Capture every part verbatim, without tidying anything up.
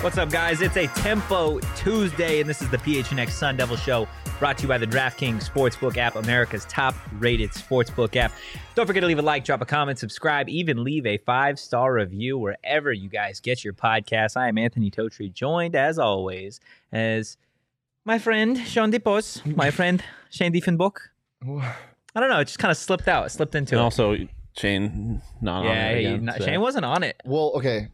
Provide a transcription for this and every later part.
What's up, guys? It's a Tempo Tuesday, and this is the P H N X Sun Devil Show, brought to you by the DraftKings Sportsbook app, America's top-rated sportsbook app. Don't forget to leave a like, drop a comment, subscribe, even leave a five-star review wherever you guys get your podcasts. I am Anthony Totri, joined, as always, as my friend Sean Dipos, my friend Shane Diefenbach. I don't know, it just kind of slipped out. It slipped into and it. also, Shane not yeah, on it again. He, not, so. Shane wasn't on it. Well, okay.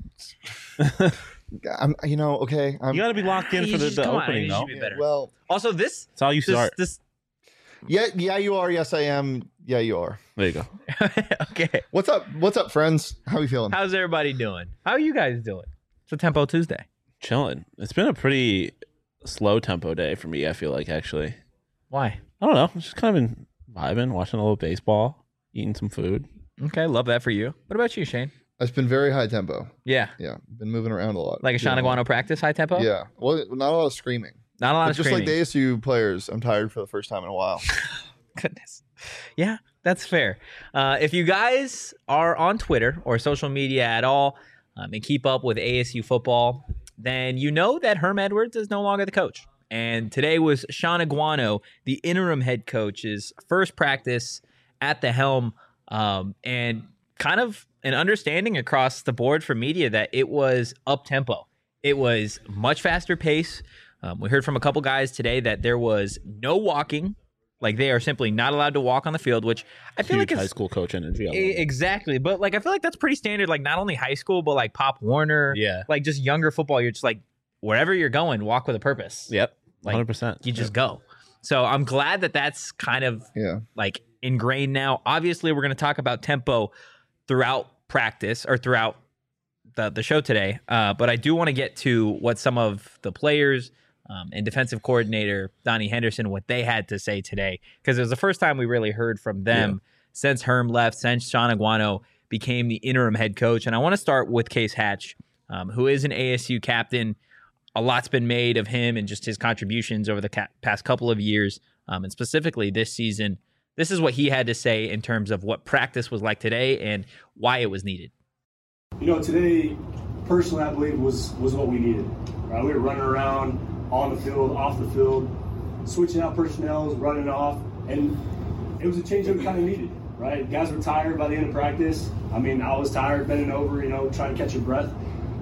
I'm, you know, okay. I'm, You got to be locked in You for the, just- the come on, opening, you though. should be better. well, Also, this... That's how you this, start. this yeah, yeah, you are. Yes, I am. Yeah, you are. There you go. Okay. What's up? What's up, friends? How are you feeling? How's everybody doing? How are you guys doing? It's a Tempo Tuesday. Chilling. It's been a pretty slow tempo day for me, I feel like, actually. Why? I don't know. Just kind of been vibing, watching a little baseball, eating some food. Okay, love that for you. What about you, Shane? It's been very high tempo. Yeah. Yeah, been moving around a lot. Like a Sean Yeah. Aguano practice, high tempo? Yeah. Well, not a lot of screaming. Not a lot But of just screaming. like the A S U players, I'm tired for the first time in a while. Goodness. Yeah, that's fair. Uh, if you guys are on Twitter or social media at all um, and keep up with A S U football, then you know that Herm Edwards is no longer the coach. And today was Sean Aguano, the interim head coach's first practice at the helm, um, and kind of an understanding across the board for media that it was up-tempo. It was much faster pace. Um, we heard from a couple guys today that there was no walking. Like, they are simply not allowed to walk on the field, which I feel Huge like it's high school coach energy. I love E- it. exactly, but like I feel like that's pretty standard. Like not only high school, but like Pop Warner, Yeah. like just younger football. You're just like wherever you're going, walk with a purpose. Yep. Like, one hundred percent. You just go. So I'm glad that that's kind of Yeah. like ingrained now. Obviously, we're going to talk about tempo throughout practice or throughout the the show today. Uh, but I do want to get to what some of the players um, and defensive coordinator Donnie Henderson, what they had to say today, because it was the first time we really heard from them since Herm left, since Sean Aguano became the interim head coach. And I want to start with Case Hatch, um, who is an A S U captain. A lot's been made of him and just his contributions over the ca- past couple of years, um, and specifically this season. This is what he had to say in terms of what practice was like today and why it was needed. You know, today, personally, I believe was was what we needed. Right? We were running around on the field, off the field, switching out personnel, running off, and it was a change that we kind of needed. Right? Guys were tired by the end of practice. I mean, I was tired, bending over, you know, trying to catch your breath.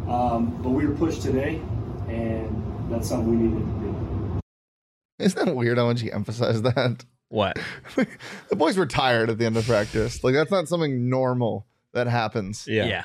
Um, but we were pushed today, and that's something we needed to do. Isn't that weird how much you emphasize that? What? The boys were tired at the end of practice. Like, that's not something normal that happens. Yeah.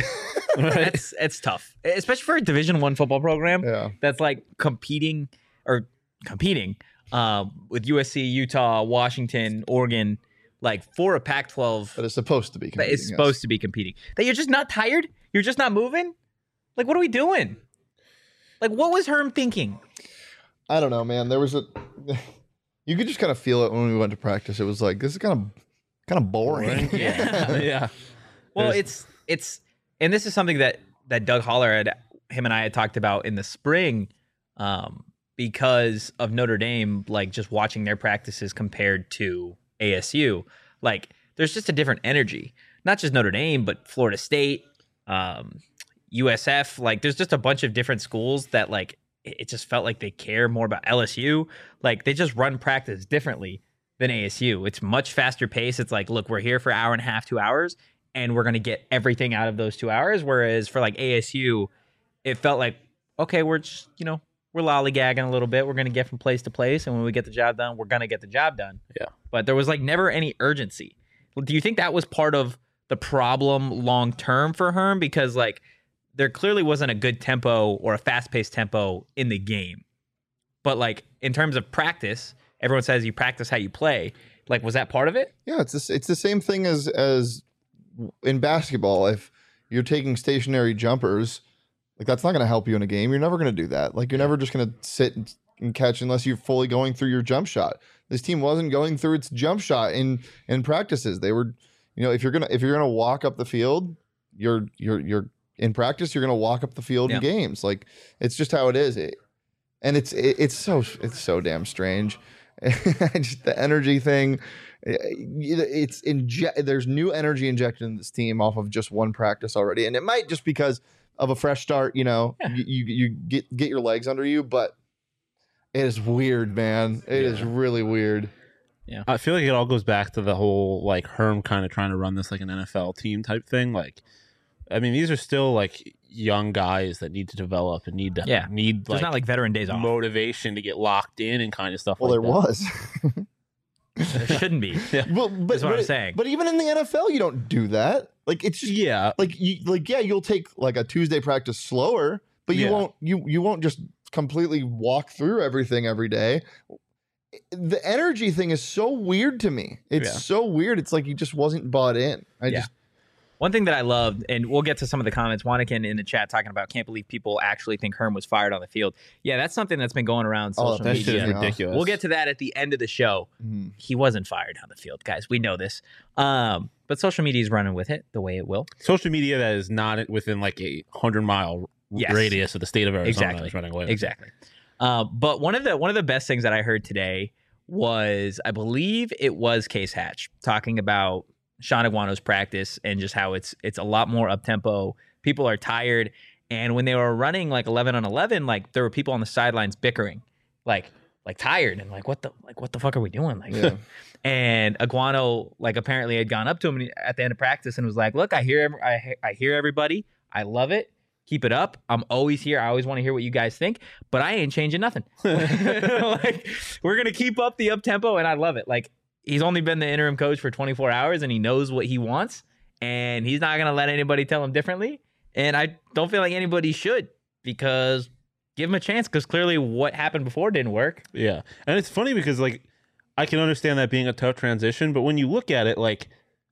It's it's tough, especially for a Division One football program Yeah. that's like competing or competing um, with U S C, Utah, Washington, Oregon, like for a Pac twelve That is supposed to be. that is supposed to be competing. That you're just not tired. You're just not moving. Like, what are we doing? Like, what was Herm thinking? I don't know, man. There was a. You could just kind of feel it when we went to practice. It was like, this is kind of kind of boring. Yeah. yeah. Well, There's- it's it's and this is something that that Doug Holler had him and I had talked about in the spring, um, because of Notre Dame, like just watching their practices compared to A S U, like there's just a different energy. Not just Notre Dame, but Florida State, um, U S F. Like there's just a bunch of different schools that like it it just felt like they care more about L S U. Like they just run practice differently than A S U. It's much faster pace. It's like, look, we're here for an hour and a half, two hours, and we're going to get everything out of those two hours. Whereas for like A S U, it felt like, okay, we're just, you know, we're lollygagging a little bit. We're going to get from place to place. And when we get the job done, we're going to get the job done. Yeah. But there was like never any urgency. Do you think that was part of the problem long term for Herm? Because like there clearly wasn't a good tempo or a fast paced tempo in the game. But like in terms of practice, everyone says you practice how you play. Like, was that part of it? Yeah, it's the, it's the same thing as as in basketball. If you're taking stationary jumpers, like that's not going to help you in a game. You're never going to do that. Like you're never just going to sit and, and catch unless you're fully going through your jump shot. This team wasn't going through its jump shot in in practices. They were, you know, if you're gonna if you're gonna walk up the field, you're you're you're in practice. You're gonna walk up the field Yeah. in games. Like it's just how it is. It, and it's it, it's so it's so damn strange. Just the energy thing. It's inje- there's new energy injected in this team off of just one practice already, and it might just because of a fresh start. You know, Yeah. you, you you get get your legs under you, but it is weird, man. It is really weird. I feel like it all goes back to the whole like Herm kind of trying to run this like an N F L team type thing. Like, I mean, these are still like young guys that need to develop and need to Yeah. need There's like, not like veteran days off. motivation to get locked in and kind of stuff. Well, like there that. was. There shouldn't be. Well, but, That's what but I'm saying. But even in the N F L, you don't do that. Like it's just Yeah, like you like yeah, you'll take like a Tuesday practice slower, but you Yeah. won't you you won't just completely walk through everything every day. The energy thing is so weird to me. It's Yeah. so weird. It's like he just wasn't bought in. I Yeah. just One thing that I loved, and we'll get to some of the comments, Wannikin in the chat talking about can't believe people actually think Herm was fired on the field. Yeah, that's something that's been going around Oh, social that shit media. is ridiculous. We'll get to that at the end of the show. mhm. He wasn't fired on the field, guys. We know this. Um, but social media is running with it the way it will. social media that is not within like a hundred mile Yes. radius of the state of Arizona Exactly. is running away. with it. Exactly. Uh, but one of the one of the best things that I heard today was, I believe it was Case Hatch talking about Sean Aguano's practice and just how it's it's a lot more up tempo. People are tired, and when they were running like eleven on eleven, like there were people on the sidelines bickering, like like tired and like what the like what the fuck are we doing? Like, Yeah. and Aguano like apparently had gone up to him at the end of practice and was like, "Look, I hear ev- I he- I hear everybody. I love it. Keep it up. I'm always here. I always want to hear what you guys think, but I ain't changing nothing. Like, we're gonna keep up the up tempo, and I love it. Like, he's only been the interim coach for twenty-four hours, and he knows what he wants, and he's not gonna let anybody tell him differently. And I don't feel like anybody should, because give him a chance, because clearly what happened before didn't work. Yeah, and it's funny because like I can understand that being a tough transition, but when you look at it, like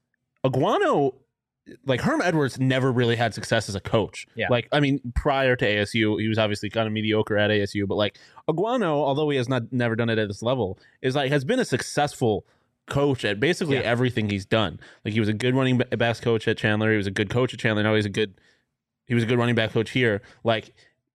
Aguano, like Herm Edwards never really had success as a coach. Yeah. Like, I mean, prior to A S U, he was obviously kind of mediocre at A S U, but like Aguano, although he has not never done it at this level, is like has been a successful coach at basically Yeah. everything he's done. Like he was a good running ba- backs coach at Chandler. He was a good coach at Chandler. Now he's a good he was a good running back coach here. Like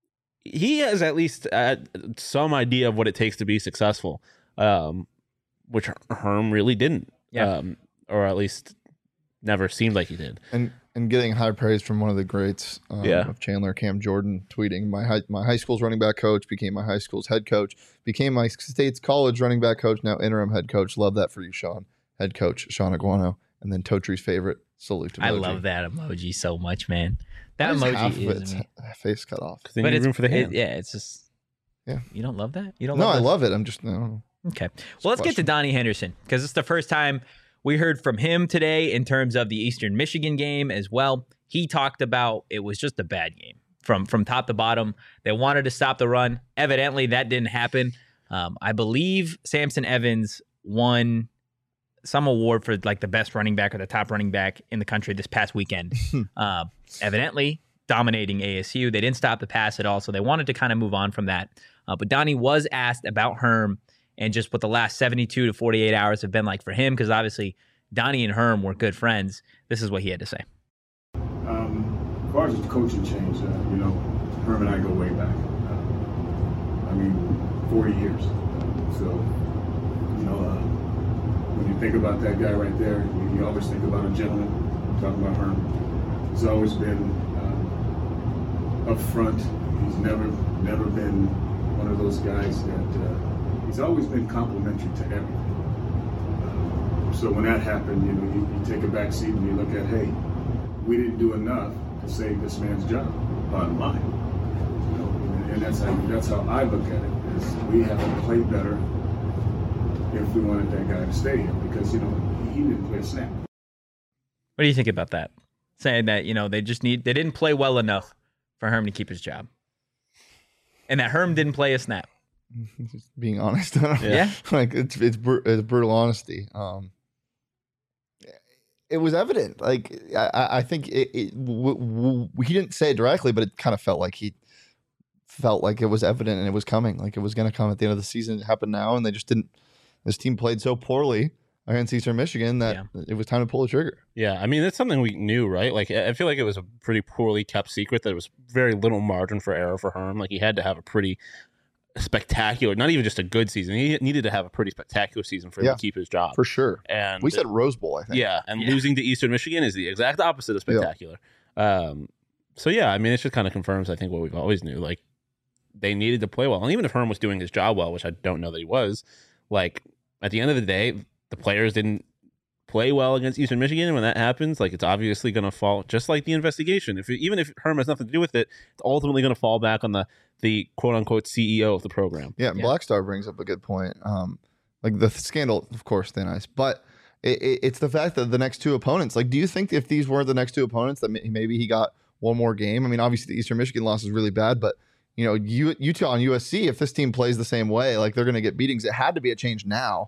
he has at least uh, some idea of what it takes to be successful, um, which Herm really didn't, Yeah. um, or at least never seemed like he did. and and getting high praise from one of the greats um, Yeah. of Chandler, Cam Jordan, tweeting my high my high school's running back coach became my high school's head coach, became my state's college running back coach, now interim head coach. Love that for you, Sean. Head coach Sean Aguano, and then Totri's favorite salute to Moji. I love that emoji so much, man. That Why is half emoji of is. its face cut off. Because they But need it's room for the it- hand. yeah, it's just. Yeah. You don't love that? You don't No, love I those? love it. I'm just I don't know. Okay. Well, let's get to question. Donnie Henderson, because it's the first time we heard from him today in terms of the Eastern Michigan game as well. He talked about it was just a bad game from from top to bottom. They wanted to stop the run. Evidently, that didn't happen. Um, I believe Samson Evans won some award for like the best running back or the top running back in the country this past weekend. uh, evidently, dominating A S U. They didn't stop the pass at all, so they wanted to kind of move on from that. Uh, but Donnie was asked about Herm and just what the last seventy-two to forty-eight hours have been like for him, because obviously Donnie and Herm were good friends. This is what he had to say. Um, as far as the coaching change, uh, you know, Herm and I go way back. Uh, I mean, forty years. Uh, so, you know, uh, when you think about that guy right there, you, you always think about a gentleman. Talking about Herm, he's always been uh, up front. He's never, never been one of those guys that. Uh, he's always been complimentary to everything. Uh, so when that happened, you know, you, you take a back seat and you look at, hey, we didn't do enough to save this man's job. Bottom line, you know, and, and that's how that's how I look at it. Is we have to play better if we wanted that guy to stay here, because you know he didn't play a snap. What do you think about that? Saying that, you know, they just need they didn't play well enough for Herm to keep his job, and that Herm didn't play a snap. Just being honest. I don't know. Yeah. Like it's it's, br- it's brutal honesty. Um, it was evident. Like I, I- I think it, it w- w- he didn't say it directly, but it kind of felt like he felt like it was evident and it was coming. Like it was going to come at the end of the season. It happened now, and they just didn't. This team played so poorly against Eastern Michigan that Yeah. it was time to pull the trigger. Yeah, I mean, that's something we knew, right? Like, I I feel like it was a pretty poorly kept secret that there was very little margin for error for Herm. Like, he had to have a pretty spectacular, not even just a good season. He needed to have a pretty spectacular season for him Yeah. to keep his job. For sure. And We said Rose Bowl, I think. yeah, and Yeah. losing to Eastern Michigan is the exact opposite of Yeah. spectacular. Um, so yeah, I mean, it just kind of confirms, I think, what we've always knew. Like, they needed to play well, and even if Herm was doing his job well, which I don't know that he was, like at the end of the day, the players didn't play well against Eastern Michigan, and when that happens, like it's obviously going to fall, just like the investigation. If even if Herm has nothing to do with it, it's ultimately going to fall back on the the quote unquote C E O of the program. Yeah, Yeah. Blackstar brings up a good point. Um, like the scandal, of course, thin ice, but it, it, it's the fact that the next two opponents. Like, do you think if these were the next two opponents, that maybe he got one more game? I mean, obviously the Eastern Michigan loss is really bad, but you know, U, Utah and U S C, if this team plays the same way, like they're going to get beatings. It had to be a change now.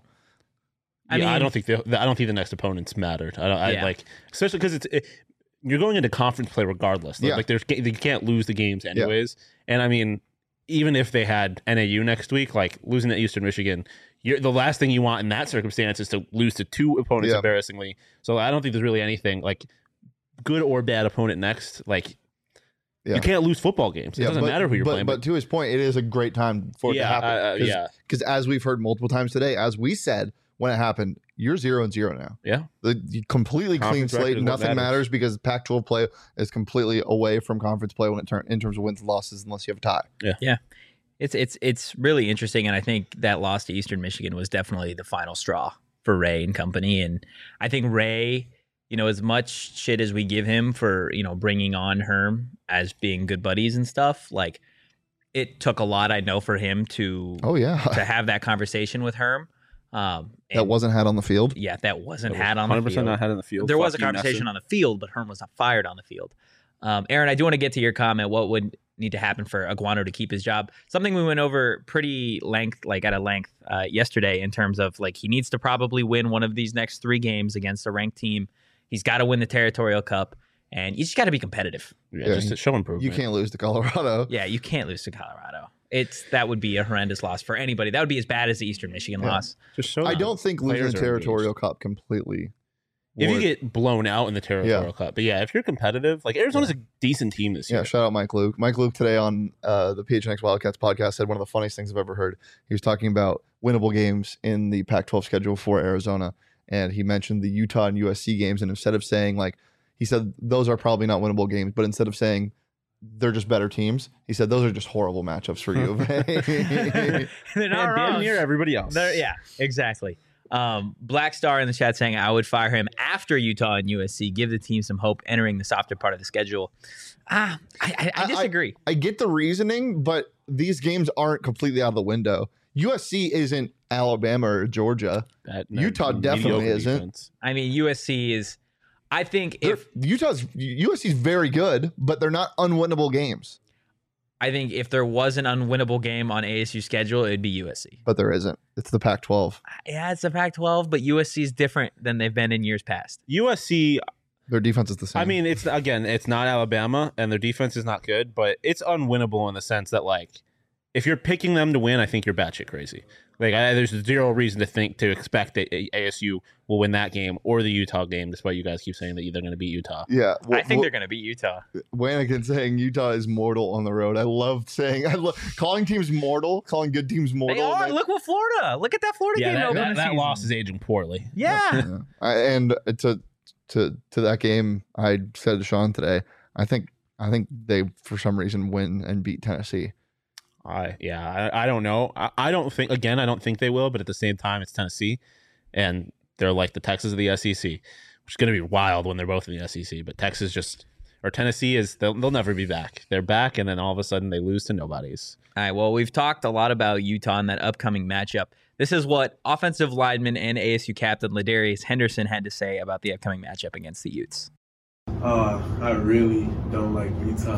I yeah, mean, I don't think the, I don't think the next opponents mattered. I don't I, Yeah. like, especially because it's it, you're going into conference play regardless. Like, Yeah. like there's you can't lose the games anyways. And I mean, even if they had N A U next week, like losing to Eastern Michigan, you're, the last thing you want in that circumstance is to lose to two opponents Yeah. embarrassingly. So I don't think there's really anything like good or bad opponent next. Like Yeah. you can't lose football games. It Yeah, doesn't but, matter who you're but, playing. But to his point, it is a great time for it yeah, to happen. uh, uh, Cause, yeah, Because as we've heard multiple times today, as we said when it happened, you're zero and zero now. yeah. The the completely clean Conference record slate. is what Nothing matters. matters because Pac twelve play is completely away from conference play when it turn in terms of wins and losses, unless you have a tie. It's it's it's really interesting, and I think that loss to Eastern Michigan was definitely the final straw for Ray and company. And I think Ray, you know, as much shit as we give him for, you know, bringing on Herm as being good buddies and stuff, like it took a lot, I know, for him to Oh yeah, to have that conversation with Herm. Um, that and wasn't had on the field. yeah, that wasn't It was had on the one hundred percent field. not had in the field. There was a Fuck you, conversation Nesson. on the field, but Herm was not fired on the field. Um, Aaron, I do want to get to your comment. What would need to happen for Aguano to keep his job? Something we went over pretty length, like at a length uh, yesterday, in terms of like he needs to probably win one of these next three games against a ranked team. He's got to win the Territorial Cup, and you just got to be competitive. Yeah, Yeah, just to show improvement. You can't lose to Colorado. Yeah, you can't lose to Colorado. It's that would be a horrendous loss for anybody. That would be as bad as the Eastern Michigan Yeah. loss. Just show I them. don't think losing Players the are Territorial Cup completely. If you would- get blown out in the Territorial Yeah. Cup, but yeah, if you're competitive, like Arizona's a decent team this Yeah, year. shout out Mike Luke. Mike Luke today on uh, the P H N X Wildcats podcast said one of the funniest things I've ever heard. He was talking about winnable games in the Pac twelve schedule for Arizona, and he mentioned the Utah and U S C games. And instead of saying like, he said those are probably not winnable games, but instead of saying they're just better teams, he said those are just horrible matchups for U of A. They're And not damn wrong. near everybody else. They're- yeah, exactly. Um, Black Star in the chat saying I would fire him after Utah and U S C. Give the team some hope entering the softer part of the schedule. Ah, I, I, I I- disagree. I get the reasoning, but these games aren't completely out of the window. U S C isn't Alabama or Georgia. That- Utah mediocre definitely isn't. defense. I mean, U S C is. I think They're- if Utah's U S C's very good, but they're not unwinnable games. I think if there was an unwinnable game on A S U's schedule, it'd be U S C. But there isn't. It's the Pac twelve. Yeah, it's the Pac twelve, but U S C is different than they've been in years past. U S C, Their defense is the same. I mean, it's again, it's not Alabama, and their defense is not good, but it's unwinnable in the sense that, like, if you're picking them to win, I think you're batshit crazy. Like, I, there's zero reason to think to expect that A S U will win that game or the Utah game, despite you guys keep saying that they're going to beat Utah. yeah. I think they're going to beat Utah. Wanigan saying Utah is mortal on the road. I love saying, I love calling teams mortal, calling good teams mortal. They are. and Look what Florida. Look at that Florida Yeah, game. that, over that, the that season. loss is aging poorly. Yeah. Yeah. I, and to to to that game, I said to Sean today, I think I think they for some reason win and beat Tennessee. I yeah, I, I don't know. I, I don't think again. I don't think they will, but at the same time, it's Tennessee, and they're like the Texas of the S E C, which is going to be wild when they're both in the S E C. But Texas just or Tennessee is they'll, they'll never be back. They're back, and then all of a sudden they lose to nobodies. All right. Well, we've talked a lot about Utah in that upcoming matchup. This is what offensive lineman and A S U captain Ladarius Henderson had to say about the upcoming matchup against the Utes. Uh, I really don't like Utah.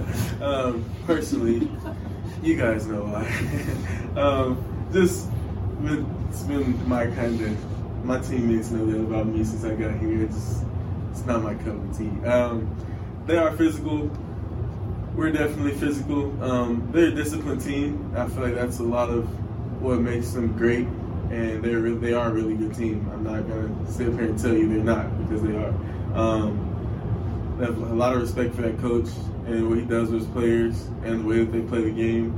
um, personally, you guys know why. um, just been, it's been my kind of my teammates know that about me since I got here. It's it's not my cup of tea. Um, they are physical. We're definitely physical. Um, they're a disciplined team. I feel like that's a lot of what makes them great, and they're re- they are a really good team. I'm not gonna sit here and tell you they're not, because they are. Um, I have a lot of respect for that coach and what he does with his players and the way that they play the game,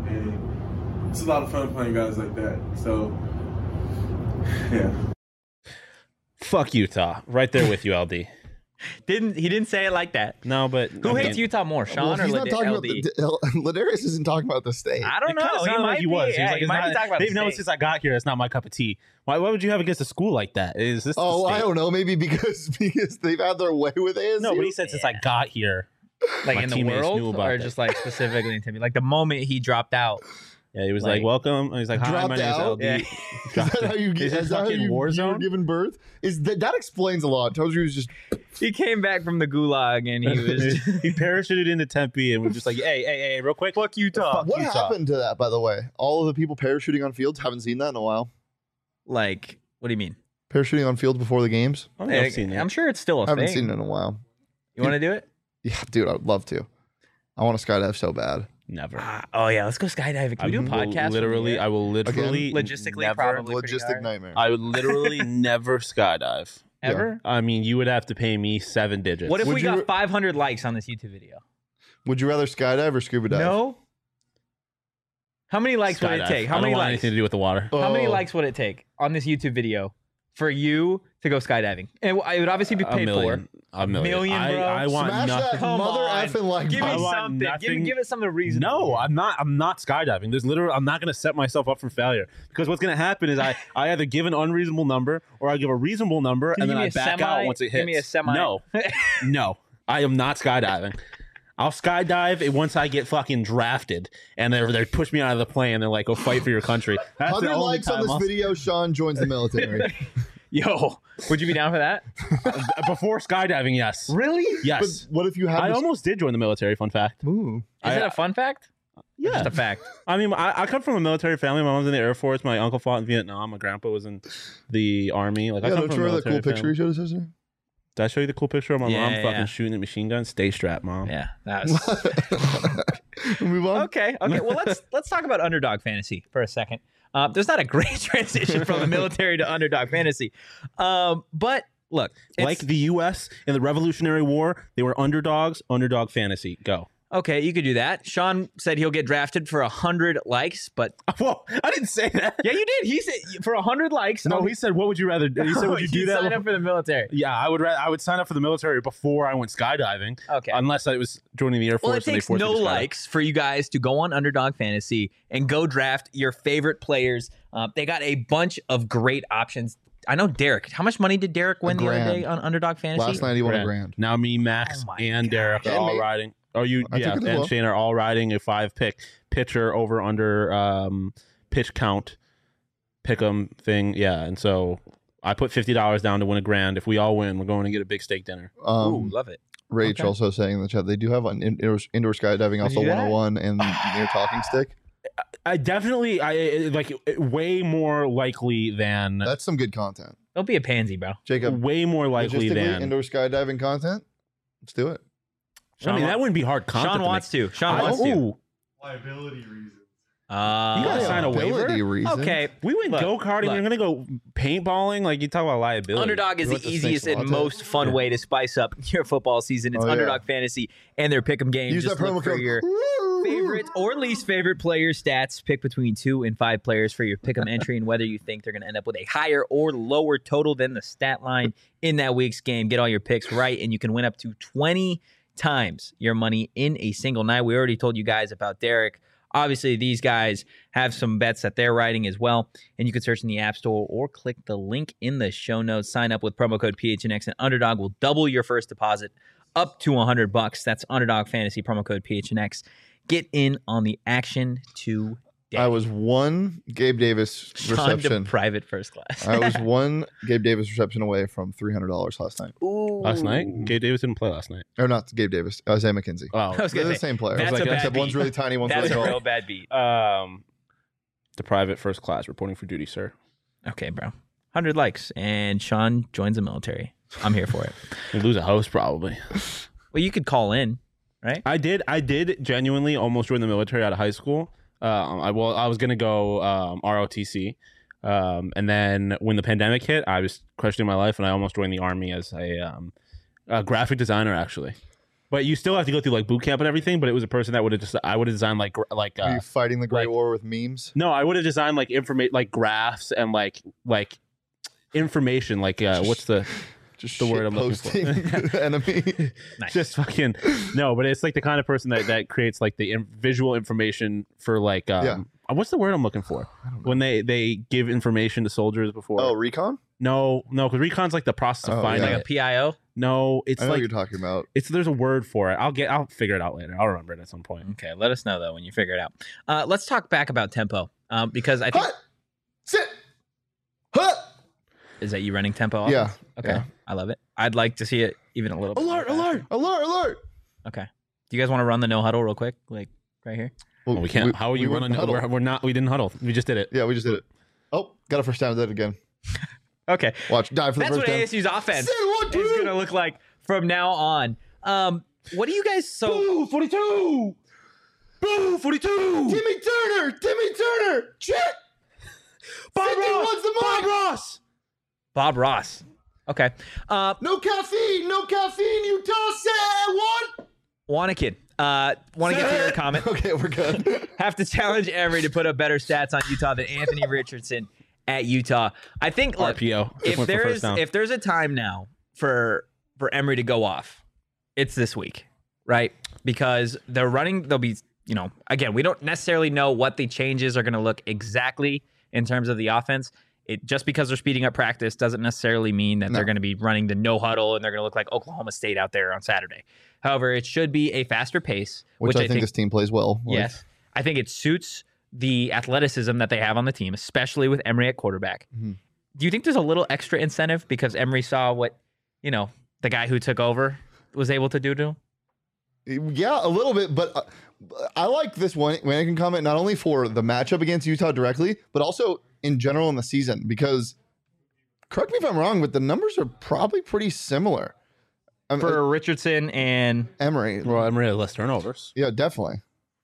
and it's a lot of fun playing guys like that. So, yeah. Fuck Utah, right there with you, L D. Didn't he didn't say it like that? No, but Who I hates mean, Utah more, Sean Well, or he's not Lad- talking L about D? the Ladarius isn't talking about the state. I don't It kinda know. He sounded might like he be. was. He was Yeah, like, he it's might not- be talking about They've the known state. since I got here. That's not my cup of tea. Why? Why would you have against a school like that? Is this? the Oh, I state? don't know. Maybe because because they've had their way with A S U. No, but he said since I got here. Like My in the teammates knew world, about or that. just like specifically in Timmy? Like the moment he dropped out. Yeah, he was Like- like, "Welcome." He's like, "Hi, Dropped my name is out? L D." Yeah. Is that how you Is get? it Is that how fucking you, you were Warzone? given birth? Is that that explains a lot? Tells you he was just He came back from the gulag and he was he parachuted into Tempe and was just like, "Hey, hey, hey, real quick, fuck Utah." what Utah. happened to that? By the way, all of the people parachuting on fields haven't seen that in a while. like, what do you mean? Parachuting on fields before the games. I don't think Hey, I've seen I'm it. sure it's still a I haven't thing. seen it in a while. You want to do it? Yeah, dude, I'd love to. I want to skydive so bad. Never. Ah, oh yeah, let's go skydiving. Can we do a will podcast? from Literally, here? I will literally Logistically, never, probably. pretty Logistic hard. nightmare. I would literally never skydive. Yeah. ever. I mean, you would have to pay me seven digits. What if Would we you- got five hundred likes on this YouTube video? Would you rather skydive or scuba dive? No. How many likes would it Skydive. take? How I don't many want likes? anything to do with the water. How many Oh. likes would it take on this YouTube video for you to go skydiving? And it would obviously be A paid million. A million. Million, I, bro. I want Smash nothing. that Come mother on. effing like for. Give I me button. want something. Give, nothing- give us something reasonable. No, I'm not. I'm not skydiving. There's literally. I'm not going to set myself up for failure because what's going to happen is I, I either give an unreasonable number or I give a reasonable number Can and you then I give me a back semi? out once it hits. Give me a semi. No, no, I am not skydiving. I'll skydive it once I get fucking drafted and they they push me out of the plane. They're like, "Go fight for your country." That's the one hundred only likes on time this I'll- video. Sean joins the military. Yo, would you be down for that? Before skydiving, yes, Really? yes. But what if you have? I this- almost did join the military. Fun fact. Ooh. Is I- it a fun fact? Or Yeah, Just a fact. I mean, I, I come from a military family. My mom's in the Air Force. My uncle fought in Vietnam. My grandpa was in the army. Like, I Yeah, come don't from you a remember that military cool picture family. he showed us yesterday? Did I show you the cool picture of my Yeah, mom yeah, fucking yeah. shooting a machine gun? Stay strapped, mom. Yeah, that was. Move on. Okay, okay. Well, let's let's talk about underdog fantasy for a second. Uh, there's not a great transition from the military to underdog fantasy, um, but look, it's- Like the U S in the Revolutionary War, they were underdogs. Underdog fantasy. Go. okay, you could do that. Sean said he'll get drafted for a hundred likes, but Whoa! I didn't say that. yeah, you did. He said for a hundred likes. No, on- he said, "What would you rather?" do? He said, "Would you do that?" Sign up for the military. Yeah, I would. Ra- I would sign up for the military before I went skydiving. Okay. Unless I was joining the Air Force Well, it and they takes forced no me to skydive. likes for you guys to go on Underdog Fantasy and go draft your favorite players. Uh, they got a bunch of great options. I know Derek. How much money did Derek win the other grand. day on Underdog Fantasy? Last night he won a Grand. grand. Now me, Max, Oh my and God. Derek are And all me. riding. Oh, you, I yeah, took it as and well. Shane are all riding a five pick pitcher over under um, pitch count pick'em thing. Yeah, and so I put fifty dollars down to win a grand. If we all win, we're going to get a big steak dinner. Um, Ooh, love it. Rach okay. also saying in the chat they do have an indoor, indoor skydiving, also you do that? one oh one and near talking stick. I definitely, I I- like way more likely than That's some good content. Don't be a pansy, bro. Jacob, way more likely logistically, than. indoor skydiving content. Let's do it. I mean, that wouldn't be hard content. Sean to wants make. to. Sean I- wants to. ooh, Liability reasons. Uh, You gotta sign a waiver? Liability reasons. Okay. we went Look, go karting. look. We're gonna go paintballing. Like you talk about liability. Underdog is You the want the easiest Snakes and latte? most fun Yeah. way to spice up your football season. It's Oh, yeah. Underdog Fantasy and their pick'em game. Use Just that promo look for code. your Woo! favorite or least favorite player stats. Pick between two and five players for your pick'em entry, and whether you think they're going to end up with a higher or lower total than the stat line in that week's game. Get all your picks right, and you can win up to twenty times your money in a single night. We already told you guys about Derek. Obviously, these guys have some bets that they're writing as well, and you can search in the App Store or click the link in the show notes. Sign up with promo code P H N X, and Underdog will double your first deposit up to one hundred bucks. That's Underdog Fantasy, promo code P H N X. Get in on the action today. I was one Gabe Davis Sean to reception. private first class. I was one Gabe Davis reception away from three hundred dollars last night. Ooh. last night. Gabe Davis didn't play last night. Or not Gabe Davis, Isaiah McKenzie. Oh, I was They're gonna the say, same player. that's a bad Except one's beat. really tiny, one's That's really a tall. real bad beat. um, the private first class reporting for duty, sir. Okay, bro. one hundred likes, and Sean joins the military. I'm here for it. We lose a host probably. Well, you could call in, right? I did. I did genuinely almost join the military out of high school. Um, I well, I was gonna go um, R O T C, um, and then when the pandemic hit, I was questioning my life, and I almost joined the army as a, um, a graphic designer, actually. But you still have to go through like boot camp and everything. But it was a person that would have just I would have designed like gra- like Are uh, you fighting the Great like- War with memes? no, I would have designed like information like graphs and like like information like uh, what's the Just the word I'm looking shitposting for. enemy. Nice. Just fucking no, but it's like the kind of person that that creates like the in- visual information for like um Yeah. uh, what's the word I'm looking for when they they give information to soldiers before. Oh, recon. no, no, because recon's like the process of Oh, finding yeah. like a it. P I O. No, it's I know like what you're talking about. it's there's a word for it. I'll get I'll figure it out later. I'll remember it at some point. Okay, let us know though when you figure it out. Uh, let's talk back about tempo um, because I think Hut! Sit. Hut! is that you running tempo? Yeah. offense? Okay, yeah. I love it. I'd like to see it even a little. bit Alert! more faster. Alert! Alert! Alert! Okay. Do you guys want to run the no huddle real quick, like right here? Well, Well, we can't. How are you we went running? huddle. We're, we're not. We didn't huddle. We just did it. Yeah, we just did it. Oh, got a first down. Did it again. Okay. Watch. Dive for the That's first what down. A S U's offense Sit, one, is two. going to look like from now on. Um, what do you guys so Boo! forty-two! Boo! forty-two! Timmy Turner. Timmy Turner. Check. Bob fifty Ross! wants the Bob mic. Ross! Bob Ross? Okay. Uh, No caffeine. No caffeine. Utah said one. Wanakin, uh, want to get to your Sit. comment? Okay, we're good. Have to challenge Emory to put up better stats on Utah than Anthony Richardson at Utah. I think look, R P O. Just if went for there first is down. if there's a time now for for Emory to go off, it's this week, right? Because they're running, they'll be, you know, again, we don't necessarily know what the changes are going to look exactly in terms of the offense. It just because they're speeding up practice doesn't necessarily mean that No. they're going to be running the no huddle and they're going to look like Oklahoma State out there on Saturday. However, it should be a faster pace, Which, I, think this team plays well. Like, yes, I think it suits the athleticism that they have on the team, especially with Emory at quarterback. Mhm. Do you think there's a little extra incentive because Emory saw what, you know, the guy who took over was able to do to him? Yeah, a little bit, but uh, I like this one when I can comment not only for the matchup against Utah directly, but also in general in the season. Because correct me if I'm wrong, but the numbers are probably pretty similar. Um, For Richardson and Emory, well, I'm really less turnovers. yeah, definitely.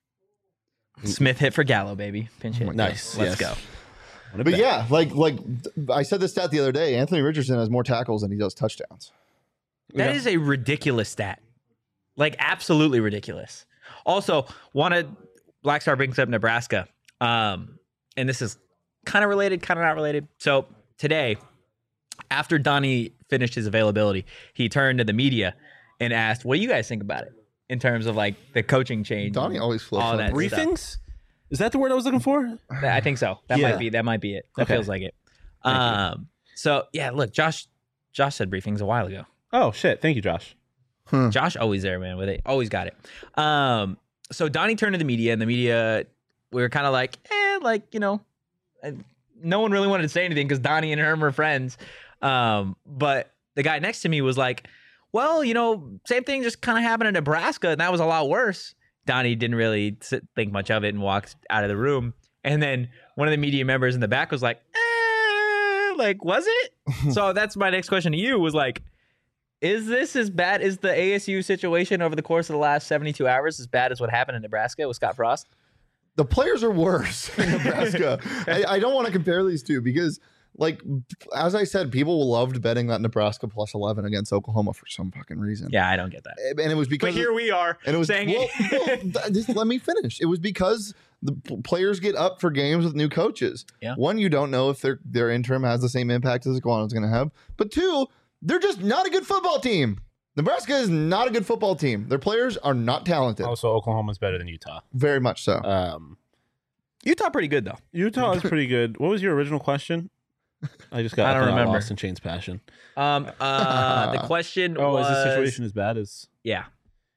Smith hit for Gallo, baby. Pinch hit. Nice. Let's yes. go. What a But bet. yeah, like like I said this stat the other day. Anthony Richardson has more tackles than he does touchdowns. That Yeah. is a ridiculous stat. Like, absolutely ridiculous. Also, wanted Black Star brings up Nebraska. Um, and this is kind of related, kind of not related. So today, after Donnie finished his availability, he turned to the media and asked, what do you guys think about it in terms of like the coaching change? Donnie always flips all on that brief- stuff. Briefings? Is that the word I was looking for? I think so. That Yeah. might be that might be it. That Okay. feels like it. Thank you. Um so yeah, look, Josh Josh said briefings a while ago. Oh shit! Thank you, Josh. Josh always there, man, with it. Always got it. Um so Donnie turned to the media and the media we were kind of like, eh, like, you know, and no one really wanted to say anything because Donnie and Herm were friends. Um, but the guy next to me was like, well, you know, same thing just kind of happened in Nebraska, and that was a lot worse. Donnie didn't really sit, think much of it and walked out of the room. And then one of the media members in the back was like, eh, like, was it? So that's my next question to you was like, is this as bad as the A S U situation over the course of the last seventy-two hours, as bad as what happened in Nebraska with Scott Frost? The players are worse in Nebraska. I, I don't want to compare these two because, like, as I said, people loved betting that Nebraska plus eleven against Oklahoma for some fucking reason. Yeah, I don't get that. And it was because But here we are and it was saying well, it. well, th- just let me finish. It was because the p- players get up for games with new coaches. Yeah. One, you don't know if their their interim has the same impact as Iguana's going to have. But two, they're just not a good football team. Nebraska is not a good football team. Their players are not talented. Also, Oklahoma's better than Utah. Very much so. Um, Utah pretty good though. Utah is pretty good. What was your original question? I just got I don't I got remember. lost in Shane's passion. Um, uh, the question Oh, was is the situation as bad as? Yeah,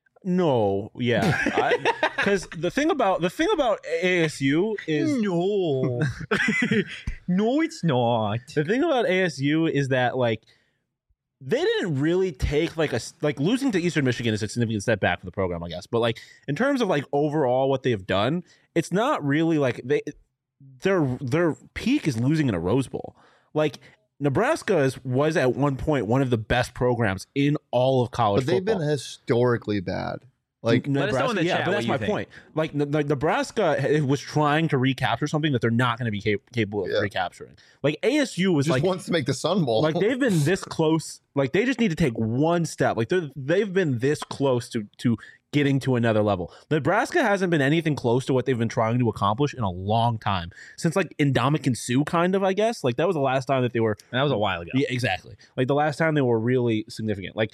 No, yeah. Because the thing about the thing about A S U is no, no, it's not. the thing about A S U is that like they didn't really take like a like losing to Eastern Michigan is a significant step back for the program, I guess. But like in terms of like overall what they've done, it's not really like they their their peak is losing in a Rose Bowl. Like Nebraska is, was at one point one of the best programs in all of college But they've football. been historically bad. Like, Let us know in the yeah, chat but what that's you my think. point. Like, Ne- Ne- Nebraska ha- was trying to recapture something that they're not going to be cap- capable of Yeah. recapturing. Like A S U was just like, wants to make the Sun Bowl. like they've been this close. Like they just need to take one step. Like they they've been this close to to getting to another level. Nebraska hasn't been anything close to what they've been trying to accomplish in a long time. Since like Ndamukong Suh, kind of, I guess. Like that was the last time that they were. And that was a while ago. Yeah, exactly. Like the last time they were really significant. Like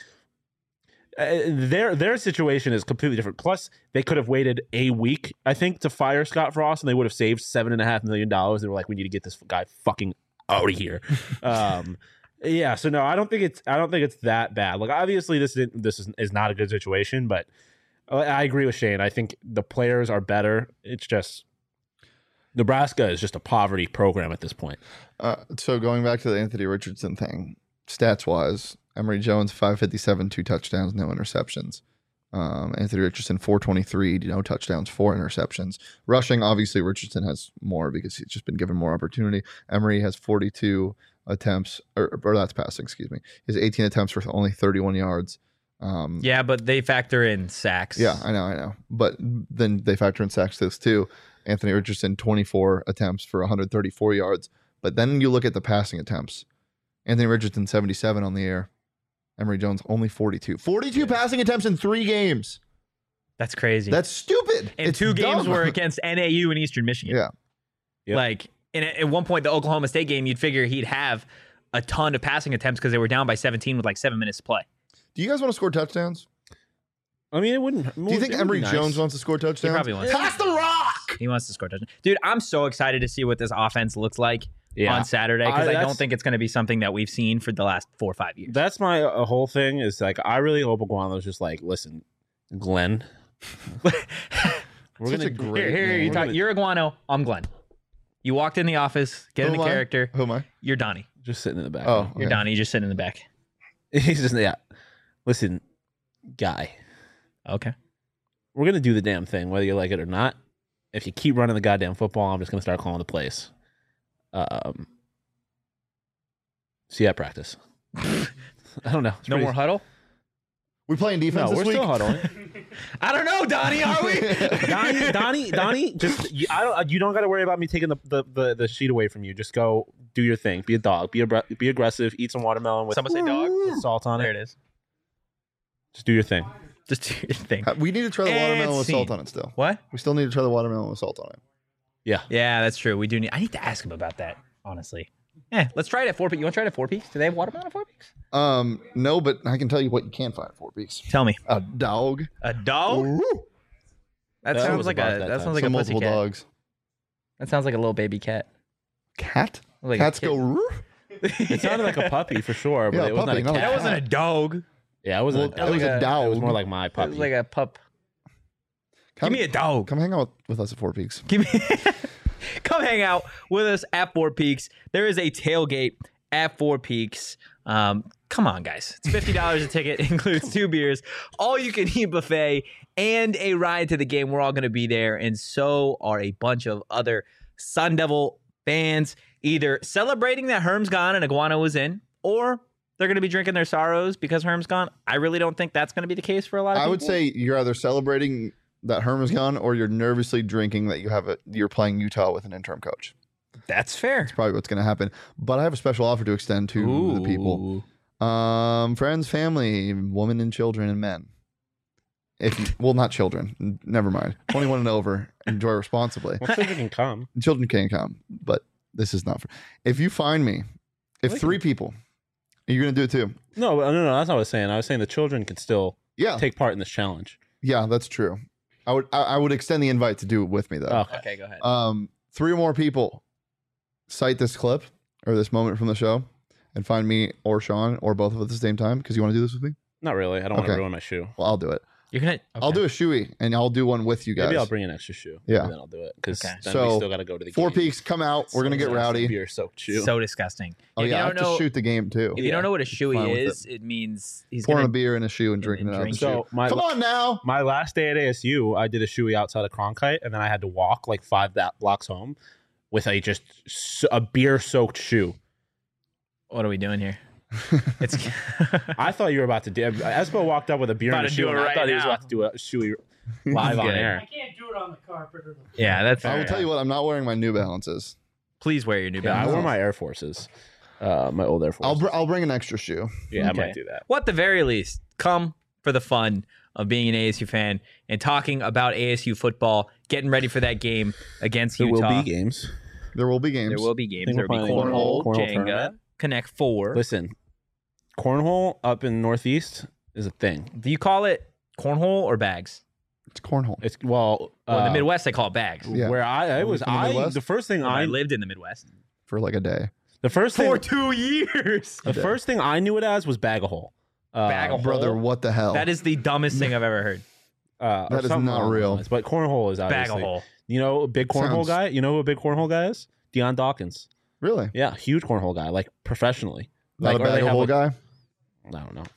uh, their their situation is completely different. Plus, they could have waited a week, I think, to fire Scott Frost, and they would have saved seven and a half million dollars. They were like, we need to get this guy fucking out of here. um, yeah. So no, I don't think it's I don't think it's that bad. Like obviously, this is, this is, is not a good situation, but I agree with Shane. I think the players are better. It's just Nebraska is just a poverty program at this point. Uh, so going back to the Anthony Richardson thing, stats wise, Emory Jones five fifty-seven, two touchdowns, no interceptions. Um, Anthony Richardson four twenty-three, no touchdowns, four interceptions. Rushing, obviously Richardson has more because he's just been given more opportunity. Emory has forty-two attempts, or, or that's passing, excuse me. He has eighteen attempts for only thirty-one yards. Um, Yeah, but they factor in sacks. Yeah, I know, I know. But then they factor in sacks this too. Anthony Richardson, twenty-four attempts for one hundred thirty-four yards. But then you look at the passing attempts. Anthony Richardson, seventy-seven on the air. Emory Jones, only forty-two. forty-two yeah. passing attempts in three games. That's crazy. That's stupid. And it's two games dumb. were against N A U and Eastern Michigan. Yeah. Yep. Like, and at one point, the Oklahoma State game, you'd figure he'd have a ton of passing attempts because they were down by seventeen with like seven minutes to play. Do you guys want to score touchdowns? I mean, it wouldn't. Do you think Emory nice. Jones wants to score touchdowns? He probably wants. Pass the rock. He wants to score touchdowns. Dude, I'm so excited to see what this offense looks like yeah. on Saturday because I, I don't think it's going to be something that we've seen for the last four or five years. That's my uh, whole thing is like, I really hope Iguano's just like, listen, Glenn. We're Such gonna, a great here, here, you talk, you're Iguano. I'm Glenn. You walked in the office, get Who into am I? character. Who am I? You're Donnie. Just sitting in the back. Oh, okay. You're Donnie. You just sitting in the back. He's just, yeah. Listen, guy. Okay. We're going to do the damn thing, whether you like it or not. If you keep running the goddamn football, I'm just going to start calling the plays. Um, see you at practice. I don't know. It's No pretty- more huddle? We playing defense No, this we're week? still huddling. I don't know, Donnie. Are we? Donnie, Donnie, Donnie, just you, I don't. You don't got to worry about me taking the, the, the, the sheet away from you. Just go do your thing. Be a dog. Be a, be aggressive. Eat some watermelon with, Someone say dog? with salt on There it. it is. Just do your thing. Just do your thing. We need to try the And watermelon with salt scene. on it still. What? We still need to try the watermelon with salt on it. Yeah. Yeah, that's true. We do need. I need to ask him about that. Honestly. Yeah, let's try it at Four Peaks. You want to try it at Four Peaks? Do they have watermelon at Four Peaks? Um, no, but I can tell you what you can find at Four Peaks. Tell me. A dog. A dog? Ooh. That, That sounds was like about a. that That, time. sounds like Some a multiple pussy cat. dogs. That sounds like a little baby cat. Cat? Like a Cats go. kitten. Roo. It sounded like a puppy for sure, but Yeah, it was puppy, not a not a cat. That wasn't a dog. Yeah, it wasn't. Well, a it was dog. a like a- dog. It was more like my It puppy. was like a pup. Come, Give me a dog. Come hang out with us at Four Peaks. Give me. Come hang out with us at Four Peaks. There is a tailgate at Four Peaks. Um, come on, guys. It's fifty dollars a ticket. It includes two beers, all you can eat buffet, and a ride to the game. We're all going to be there, and so are a bunch of other Sun Devil fans, either celebrating that Herm's gone and Iguana was in, or they're going to be drinking their sorrows because Herm's gone. I really don't think that's going to be the case for a lot of I people. would say you're either celebrating that Herm is gone or you're nervously drinking that you have a you're playing Utah with an interim coach. that's fair. Probably what's going to happen. But I have a special offer to extend to the people. Um, friends, family, women and children and men. If you, well, not children. N- Never mind. twenty-one and over. Enjoy responsibly. Well, children can come. Children can come, but this is not for. If you find me, if They three people, you're going to do it too. No, no, no. That's not what I was saying. I was saying the children can still Yeah, take part in this challenge. yeah, that's true. I would I, I would extend the invite to do it with me though. Okay. Okay, go ahead. Um, three or more people cite this clip or this moment from the show and find me or Sean or both of us at the same time because you want to do this with me. Not really. I don't want Okay. to ruin my shoe. Well, I'll do it. You're gonna. I'll do a shoey and I'll do one with you guys. Maybe I'll bring an extra shoe. Yeah. And then I'll do it because Okay. then So, we still got to go to the Four game. Peaks, come out. We're gonna get rowdy. Beer soaked shoe. So disgusting. Oh if yeah, I you have don't know, to shoot the game too. if you don't know what a Fine shoey with is, it. means he's Pouring gonna. a beer in a shoe and drinking it out of the drink. shoe. So my Come on now. my last day at A S U, I did a shoey outside of Cronkite, and then I had to walk like five that blocks home with a just s- a beer soaked shoe. What are we doing here? It's. I thought you were about to do. Espo walked up with a beer About in a to shoe, do it and I right thought he was now. about to do a shoey live on Good. air. I can't do it on the carpet or the yeah, that's. I will tell you what. I'm not wearing my New Balances. Please wear your New Yeah, I Balance. wore my Air Forces, uh, my old Air I'll Forces. br- I'll bring an extra shoe. yeah, Okay. I might do that. Well, at the very least, come for the fun of being an A S U fan and talking about A S U football, getting ready for that game against There Utah. will be games. There will be games. There will be games. Think There will we're be playing cornhole, cornhole Jenga, tournament. Connect Four. Listen, cornhole up in Northeast is a thing. Do you call it cornhole or bags? It's cornhole. It's well, Well, in uh, the Midwest, they call it bags. Yeah. where I, I Are we was, from the I Midwest? the first thing I I, lived in the Midwest For like a day. the first thing, for two years. the first thing I knew it as was bag a hole. Uh, Bag a hole? Brother, what the hell? That is the dumbest thing I've ever heard. Uh, or That is something not along those real. lines. But cornhole is Bag obviously. a hole. You know, a big cornhole Sounds- guy. You know who a big cornhole guy is? Deion Dawkins. Really? Yeah, huge cornhole guy, like professionally. Not Like, a or they bag of have, hole like- guy? I don't know.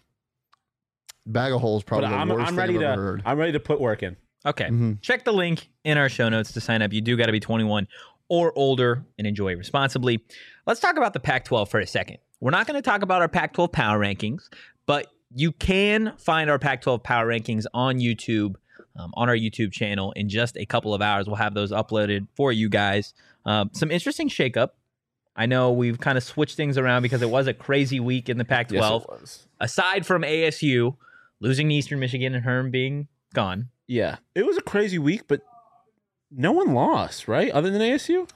Bag of holes probably But the I'm, worst I'm thing ready I've to. ever heard. I'm ready to put work in. Okay. Mhm. Check the link in our show notes to sign up. You do got to be twenty-one or older and enjoy responsibly. Let's talk about the Pac twelve for a second. We're not going to talk about our Pac twelve power rankings, but you can find our Pac twelve power rankings on YouTube, um, on our YouTube channel in just a couple of hours. We'll have those uploaded for you guys. Um, some interesting shakeup. I know we've kind of switched things around because it was a crazy week in the Pac twelve. Yes, it was. Aside from A S U losing to Eastern Michigan and Herm being gone. Yeah, it was a crazy week, but no one lost, right? Other than A S U,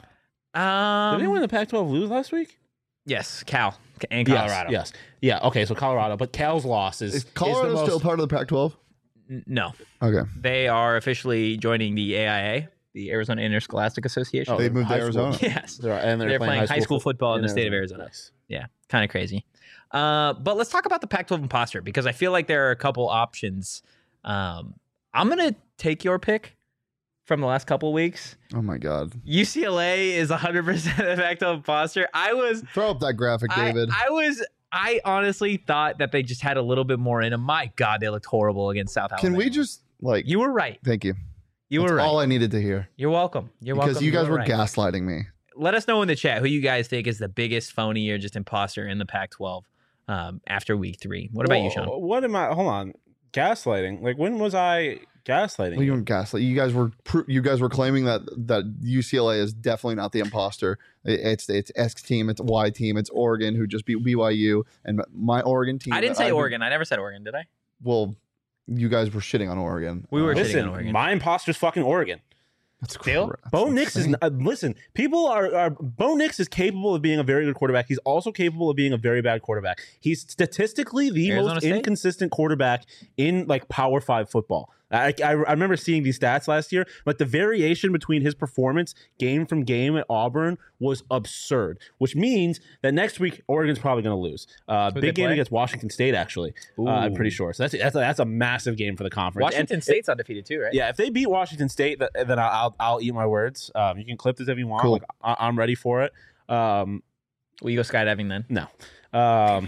Um, did anyone in the Pac twelve lose last week? Yes, Cal and Yes, Colorado. Yes, yeah. Okay, so Colorado, but Cal's loss is Is Colorado is the most, still part of the Pac twelve? N- No, Okay. they are officially joining the A I A, the Arizona Interscholastic Association. Oh, They they're moved to high school. Arizona. Yes, They're, and they're, They're playing high school fo- football in the state of Arizona. Nice. yeah, kind of crazy. Uh, but let's talk about the Pac twelve imposter because I feel like there are a couple options. Um, I'm gonna take your pick from the last couple of weeks. Oh my God. U C L A is one hundred percent the Pac twelve imposter. I was Throw up that graphic, I, David. I was. I honestly thought that they just had a little bit more in them. My God, they looked horrible against South Alabama. Can we just like? You were right. Thank you. You That's were right. all I needed to hear. You're welcome. You're Because welcome. you guys were were right. gaslighting me. Let us know in the chat who you guys think is the biggest phony or just imposter in the Pac twelve um, after week three. What about you, Sean? Whoa, What am I? Hold on, gaslighting. Like when was I gaslighting? Well, you weren't gaslight. You guys were pr- you guys were claiming that that U C L A is definitely not the imposter. It- It's it's X team, it's Y team, it's Oregon who just beat B Y U, and my Oregon team. I didn't that say I've been- Oregon. I never said Oregon, did I? Well, you guys were shitting on Oregon. We were Uh, shitting Listen, on Oregon. my imposter's fucking Oregon. That's Still? cra- that's Bo Nix is insane. uh, listen. People are, are Bo Nix is capable of being a very good quarterback. He's also capable of being a very bad quarterback. He's statistically the Arizona most State? inconsistent quarterback in like Power Five football. I, I, I remember seeing these stats last year, but the variation between his performance game from game at Auburn was absurd. Which means that next week Oregon's probably going to lose. Uh, Who they big game play? against Washington State, actually. Uh, I'm pretty Ooh. sure. So that's that's a, that's a massive game for the conference. And- Washington State's undefeated too, right? yeah, if they beat Washington State, th- then I'll I'll, I'll eat my words. Um, you can clip this if you want. Cool. Like, I- I'm ready for it. Um, Will you go skydiving then? no, um,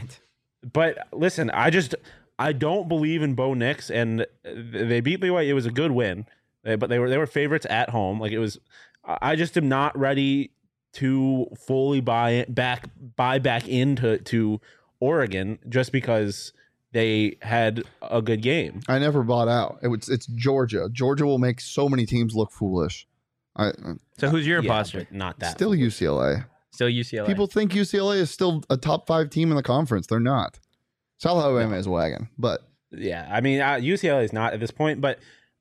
but listen, I just I don't believe in Bo Nix, and they beat B Y U. It was a good win, eh, but they were they were favorites at home. Like it was, I just am not ready to fully buy it back buy back into to Oregon just because they had a good game. I never bought out. It was it's Georgia. Georgia will make so many teams look foolish. I uh, So who's your Yeah, imposter? but not that. still U C L A. Still U C L A. People think U C L A is still a top five team in the conference. They're not. South Alabama is wagon, but Yeah, I mean, uh, U C L A is not at this point, but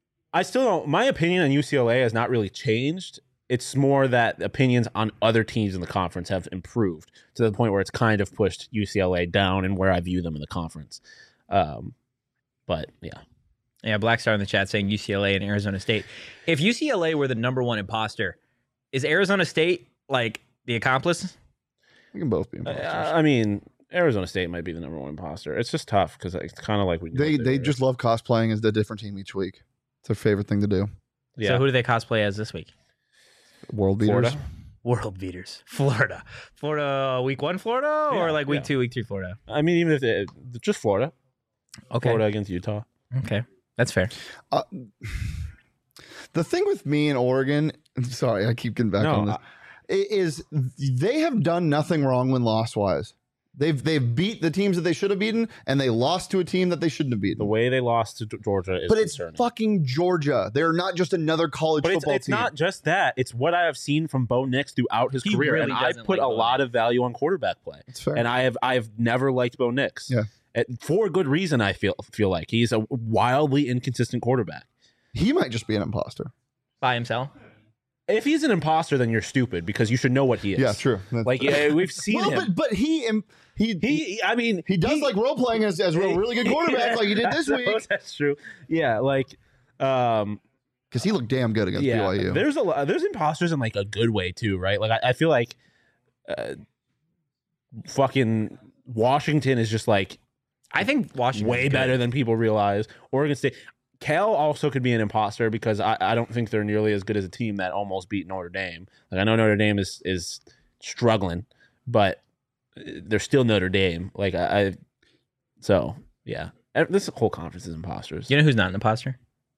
I still don't. My opinion on U C L A has not really changed. It's more that opinions on other teams in the conference have improved to the point where it's kind of pushed U C L A down and where I view them in the conference. Um, but yeah, Yeah, Black Star in the chat saying U C L A and Arizona State. If U C L A were the number one imposter, is Arizona State like the accomplice? we can both be uh, imposters. I mean, Arizona State might be the number one imposter. It's just tough because it's kind of like we they they just love cosplaying as the different team each week. It's their favorite thing to do. yeah. So who do they cosplay as this week? World beaters. Florida? World beaters. Florida. Florida week one Florida or Yeah, like week yeah. two, week three Florida? I mean, even if they, just Florida, Okay. Florida against Utah. Okay. That's fair. Uh, the thing with me and Oregon, sorry, I keep getting back No, on this, i- is they have done nothing wrong when loss wise. They've they've beat the teams that they should have beaten, and they lost to a team that they shouldn't have The beaten. way they lost to Georgia is But it's concerning. fucking Georgia. They're not just another college But it's, football it's team. not just that. It's what I have seen from Bo Nix throughout his He career, really and I doesn't put like a Bo lot Nix. of value on quarterback play. It's fair. And I have I've never liked Bo Nix. Yeah. for good reason. I feel feel like he's a wildly inconsistent quarterback. He might just be an imposter. By himself. If he's an imposter, then you're stupid because you should know what he is. Yeah, true. That's- Like yeah, we've seen well, him. but but he im- he he, I mean, he does like role playing as as a really good quarterback, like he did this that's- week. That's true. Yeah, like, um, Because he looked damn good against yeah. B Y U. There's a lot. There's imposters in like a good way too, right? Like I, I feel like, uh, fucking Washington is just like I think Washington way better than people realize. Oregon State. Cal also could be an imposter because I, I don't think they're nearly as good as a team that almost beat Notre Dame. Like I know Notre Dame is is struggling, but they're still Notre Dame. Like I, I so yeah, this whole conference is imposters. You know who's not an imposter?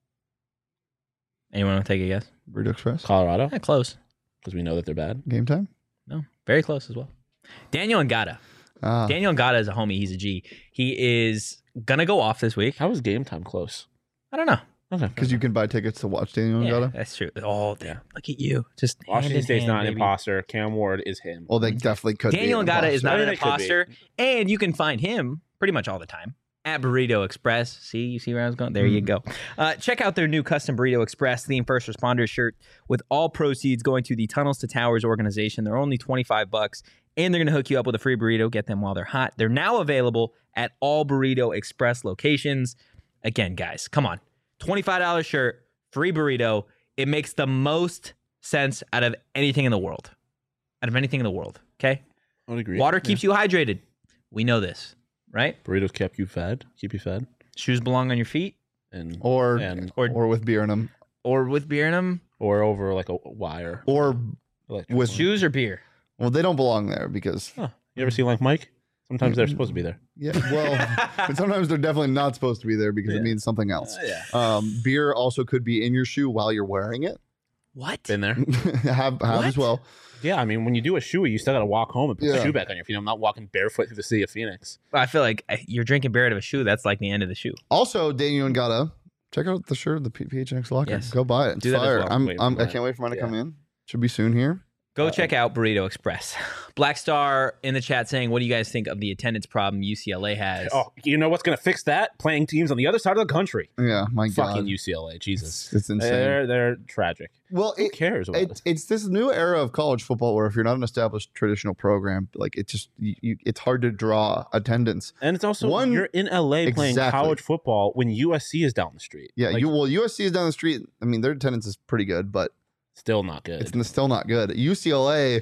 Anyone want to take a guess? Burrito Express. Colorado, Yeah, close. because we know that they're bad. Game time. No, very close as well. Daniel Ngata. Ah, Daniel Ngata is a homie. He's a G. He is gonna go off this week. How is game time close? I don't know. Okay, because you can buy tickets to watch Daniel Yeah, Ngata. that's true. Oh, damn. Look at you. Just hand Washington in State's hand, not an baby. imposter. Cam Ward is him. Well, they definitely could. Daniel be an Ngata is imposter. not I an think it could be. imposter, and you can find him pretty much all the time at Burrito Express. See, you see where I was going? There you go. Uh, check out their new custom Burrito Express themed first responder shirt with all proceeds going to the Tunnels to Towers organization. They're only twenty-five bucks, and they're going to hook you up with a free burrito. Get them while they're hot. They're now available at all Burrito Express locations. Again, guys, come on. twenty-five dollars shirt, free burrito. It makes the most sense out of anything in the world. Out of anything in the world, okay? I would agree. Water keeps you hydrated. We know this, right? Burritos keep you fed. Keep you fed. Shoes belong on your feet And or and or or with beer in them, or with beer in them. or over like a wire. or Electric with one. Shoes or beer. well, they don't belong there because Huh. You ever see like Mike? Sometimes they're supposed to be there. yeah, well, but sometimes they're definitely not supposed to be there because Yeah. it means something else. yeah. Um, beer also could be in your shoe while you're wearing it. What? Been there. have have What? as well. Yeah, I mean, when you do a shoey, you still got to walk home and put the Yeah. shoe back on your feet. I'm not walking barefoot through the city of Phoenix. I feel like uh, you're drinking beer out of a shoe. That's like the end of the shoe. Also, Daniel Ngata, check out the shirt, the P- PHNX locker. Yes. Go buy it. It's Do that as fire. well. I'm, Wait I'm for I that. can't wait for mine to Yeah. come in. Should be soon here. Go Uh-oh. check out Burrito Express. Black Star in the chat saying, "What do you guys think of the attendance problem U C L A has?" Oh, you know what's going to fix that? Playing teams on the other side of the country. Yeah, my Fucking God, U C L A. Jesus. it's, it's insane. They're, they're tragic. well, Who it, cares about it's it? it's this new era of college football where if you're not an established traditional program, like it just you, you, it's hard to draw attendance. And it's also, One- you're in L A playing Exactly. college football when U S C is down the street. Yeah, Like, you well U S C is down the street. I mean, their attendance is pretty good, but still not good. it's n- still not good. U C L A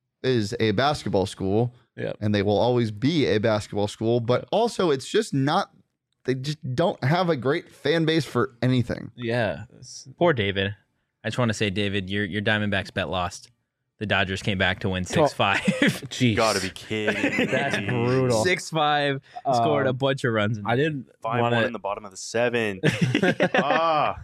is a basketball school, Yeah. and they will always be a basketball school. But also, it's just not. They just don't have a great fan base for anything. Yeah. It's- Poor David. I just want to say, David, your your Diamondbacks bet lost. The Dodgers came back to win six five. Jeez. Gotta be kidding. That's me. brutal. six five. Scored a Um, bunch of runs. In I did Five want one to in the bottom of the seven. ah,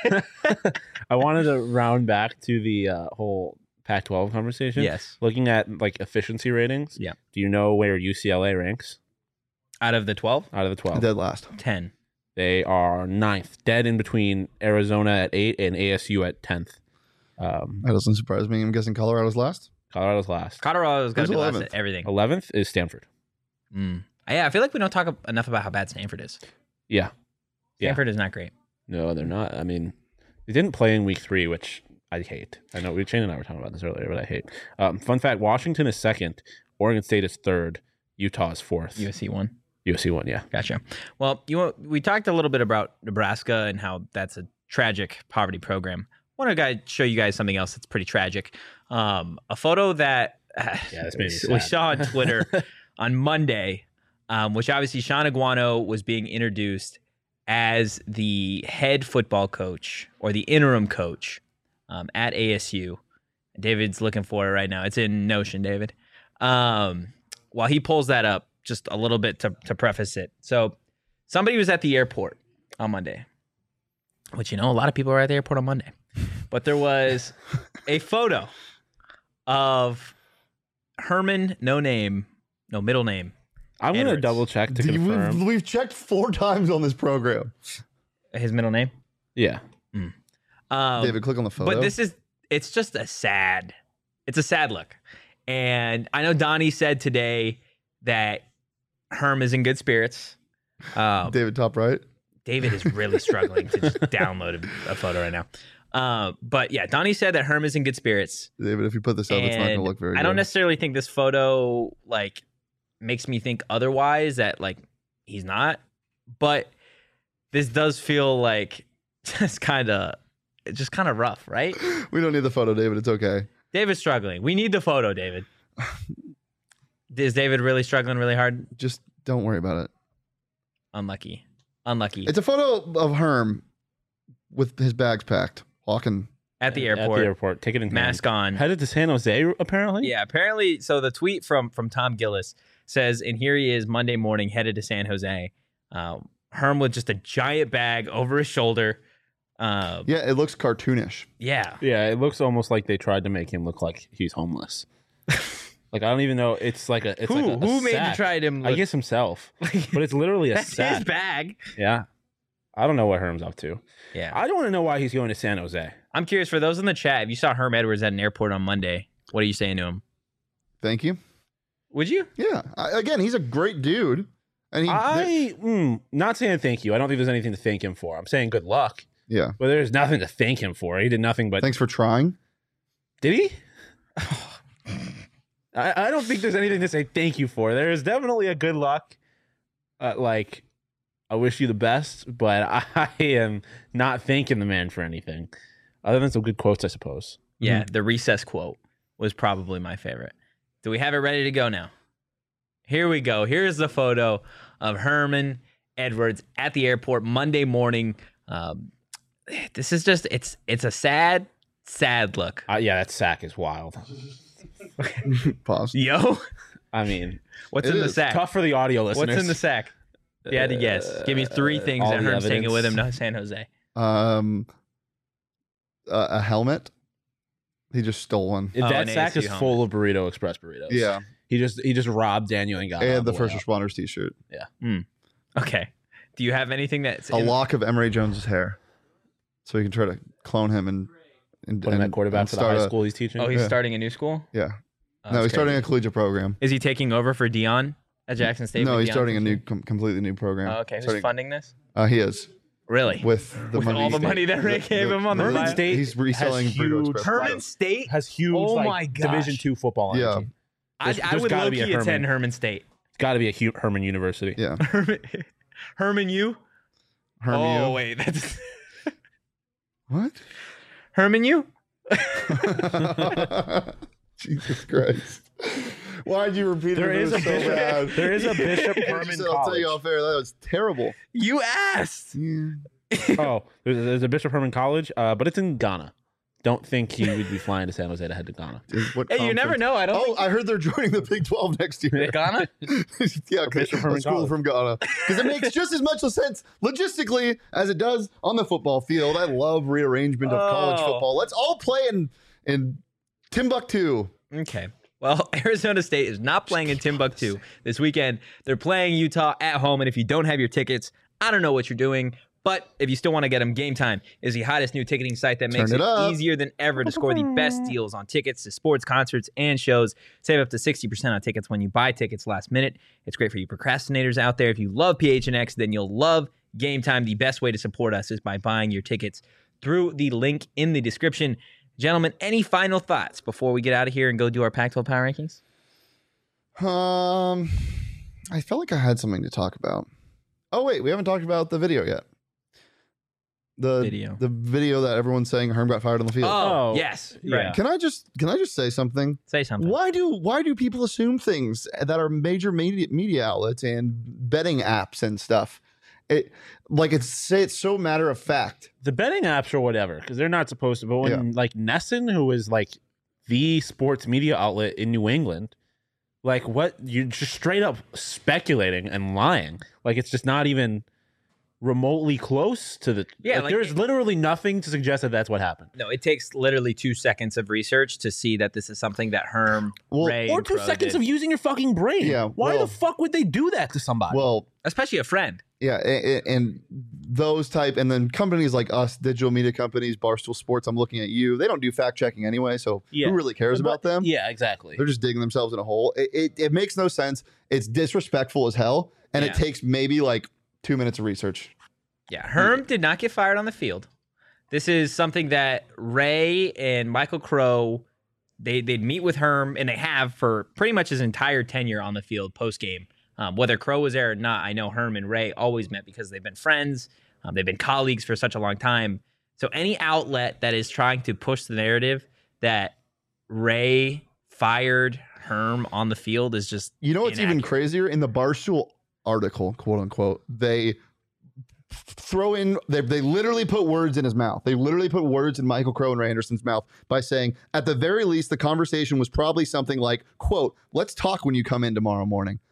I wanted to round back to the uh, whole Pac twelve conversation. Yes. Looking at like efficiency ratings. Yeah. Do you know where U C L A ranks Out of the twelve, out of the twelve? Dead last. ten. They are ninth, dead in between Arizona at eight and A S U at tenth. Um, That doesn't surprise me. I'm guessing Colorado's last. Colorado's last. Colorado's got to Who's be last eleventh? at everything. eleventh is Stanford. Mm. Yeah, I feel like we don't talk enough about how bad Stanford is. Yeah. Yeah. Stanford is not great. No, they're not. I mean, they didn't play in week three, which I hate. I know we Shane and I were talking about this earlier, but I hate. Um, fun fact: Washington is second, Oregon State is third, Utah is fourth, U S C won. U S C one. Yeah, Gotcha. Well, you want- we talked a little bit about Nebraska and how that's a tragic poverty program. I want to show you guys something else that's pretty tragic. Um, a photo that Yeah, this made me we sad. saw on Twitter on Monday, um, which obviously Sean Aguano was being introduced as the head football coach or the interim coach um, at A S U. David's looking for it right now. It's in Notion, David. Um, while he pulls that up, just a little bit to, to preface it. So somebody was at the airport on Monday, which, you know, a lot of people are at the airport on Monday. But there was a photo of Herman, no name, no middle name. I'm gonna Edwards. double check to Dude, confirm. We've, we've checked four times on this program. His middle name. Yeah, Um, David, click on the photo. But this is, it's just a sad, it's a sad look. And I know Donnie said today that Herm is in good spirits. Um, David, top right. David is really struggling to just download a, a photo right now. Uh, but yeah, Donnie said that Herm is in good spirits. David, if you put this up, it's not going to And look very I good. don't necessarily think this photo like makes me think otherwise, that like he's not, but this does feel like just kind of just kind of rough, right? We don't need the photo, David. It's okay. David's struggling. We need the photo, David. Is David really struggling really hard? Just don't worry about it. Unlucky. Unlucky. It's a photo of Herm with his bags packed, walking. At the At airport, the airport, ticket in hand. mask on. Headed to San Jose, apparently. Yeah, apparently. So the tweet from from Tom Gillis says, and here he is Monday morning headed to San Jose. Um, Herm with just a giant bag over his shoulder. Uh, Yeah, it looks cartoonish. yeah. Yeah, it looks almost like they tried to make him look like he's homeless. Like, I don't even know. It's like a. It's Who like a, a who made you sack. try him? I guess himself. But it's literally a That's sack. his bag. Yeah. I don't know what Herm's up to. Yeah. I don't want to know why he's going to San Jose. I'm curious for those in the chat. If you saw Herm Edwards at an airport on Monday, what are you saying to him? Thank you. Would you? Yeah. I, again, he's a great dude. And he, I mm, not saying thank you. I don't think there's anything to thank him for. I'm saying good luck. yeah. But there's nothing to thank him for. He did nothing but. Thanks for trying. Did he? I, I don't think there's anything to say thank you for. There is definitely a good luck. Uh, like, I wish you the best, but I am not thanking the man for anything. Other than some good quotes, I suppose. Yeah, the recess quote was probably my favorite. Do we have it ready to go now? Here we go. Here's the photo of Herman Edwards at the airport Monday morning. Um, this is just, it's it's a sad, sad look. Uh, yeah, that sack is wild. Pause. Yo, I mean, what's It in the is sack? tough for the audio listeners. What's in the sack? If you had to guess. Give me three things all that the Herm's taking evidence. with him to San Jose. Um, uh, a helmet. He just stole one. If Oh, that an sack A S U is full of Burrito Express burritos. Yeah. He just he just robbed Daniel and got And the first responders t-shirt. Okay. Do you have anything that's A in- lock of Emory Jones's hair. So he can try to clone him and, and Put him and, at quarterback and for the start high a- school he's teaching. Oh, he's Yeah. starting a new school? Yeah. Oh, no, that's he's starting crazy. a collegiate program. Is he taking over for Dion at Jackson State? No, when he's Dion starting a comes new, in? com- completely new program. Oh, okay. Who's Starting- funding this? Uh, he is Really? with the With money. all the money that Ray gave him on the Herman bio? State He's reselling has Burrito huge- Express. Herman State? has huge Oh like, my gosh. Division two football Yeah. energy. I, There's- I there's would gotta low be a key attend Herman. Herman State. It's got to be a Hu- Herman University. Yeah. Herman, Herman U? Herman. Oh, wait. That's What? Herman U? Jesus Christ. Why'd you repeat There it? is It a was so bishop. bad. There is a Bishop I Herman just- I'll tell you College. off air. That was terrible. You asked. Yeah. Oh, there's, there's a Bishop Herman College, uh, but it's in Ghana. Don't think he would be flying to San Jose to head to Ghana. Is what Hey, you never conference- know. I don't Oh, think I heard they're joining the Big twelve next year. Ghana? yeah, Bishop a Herman school College. from Ghana. Because it makes just as much sense logistically as it does on the football field. I love rearrangement of college Oh. football. Let's all play in in Timbuktu. Okay. Well, Arizona State is not playing in Timbuktu this weekend. They're playing Utah at home, and if you don't have your tickets, I don't know what you're doing. But if you still want to get them, Game Time is the hottest new ticketing site that makes Turn it, it up. easier than ever to score the best deals on tickets to sports, concerts, and shows. Save up to sixty percent on tickets when you buy tickets last minute. It's great for you procrastinators out there. If you love P H N X, then you'll love Game Time. The best way to support us is by buying your tickets through the link in the description. Gentlemen, any final thoughts before we get out of here and go do our Pac twelve Power Rankings? Um, I felt like I had something to talk about. Oh wait, we haven't talked about the video yet. The Video. the video that everyone's saying Herm got fired on the field. Oh, Oh, yes. yeah. Right. Can I just can I just say something? Say something. Why do why do people assume things that are major media media outlets and betting apps and stuff? It like it's say it's so matter of fact. The betting apps or whatever, because they're not supposed to. But when like Nesson, who is like the sports media outlet in New England, like what you're just straight up speculating and lying. Like it's just not even remotely close to the. Yeah, like, like- there's literally nothing to suggest that that's what happened. No, it takes literally two seconds of research to see that this is something that Herm, Well, Ray, Or and two Pro seconds did. of using your fucking brain. Yeah, Why well- the fuck would they do that to somebody? Well, especially a friend. yeah, and, and those type, and then companies like us, digital media companies, Barstool Sports. I'm looking at you. They don't do fact checking anyway, so Yeah. who really cares about them? Yeah, exactly. They're just digging themselves in a hole. It, it, it makes no sense. It's disrespectful as hell. And Yeah. it takes maybe like Two minutes of research. Yeah, Herm did not get fired on the field. This is something that Ray and Michael Crow, they, they'd meet with Herm, and they have for pretty much his entire tenure on the field post-game. Um, whether Crow was there or not, I know Herm and Ray always met because they've been friends. Um, they've been colleagues for such a long time. So any outlet that is trying to push the narrative that Ray fired Herm on the field is just You know what's even inaccurate. crazier? In the Barstool article, quote unquote, they throw in, they, they literally put words in his mouth. They literally put words in Michael Crow and Ray Anderson's mouth by saying, at the very least, the conversation was probably something like, quote, let's talk when you come in tomorrow morning.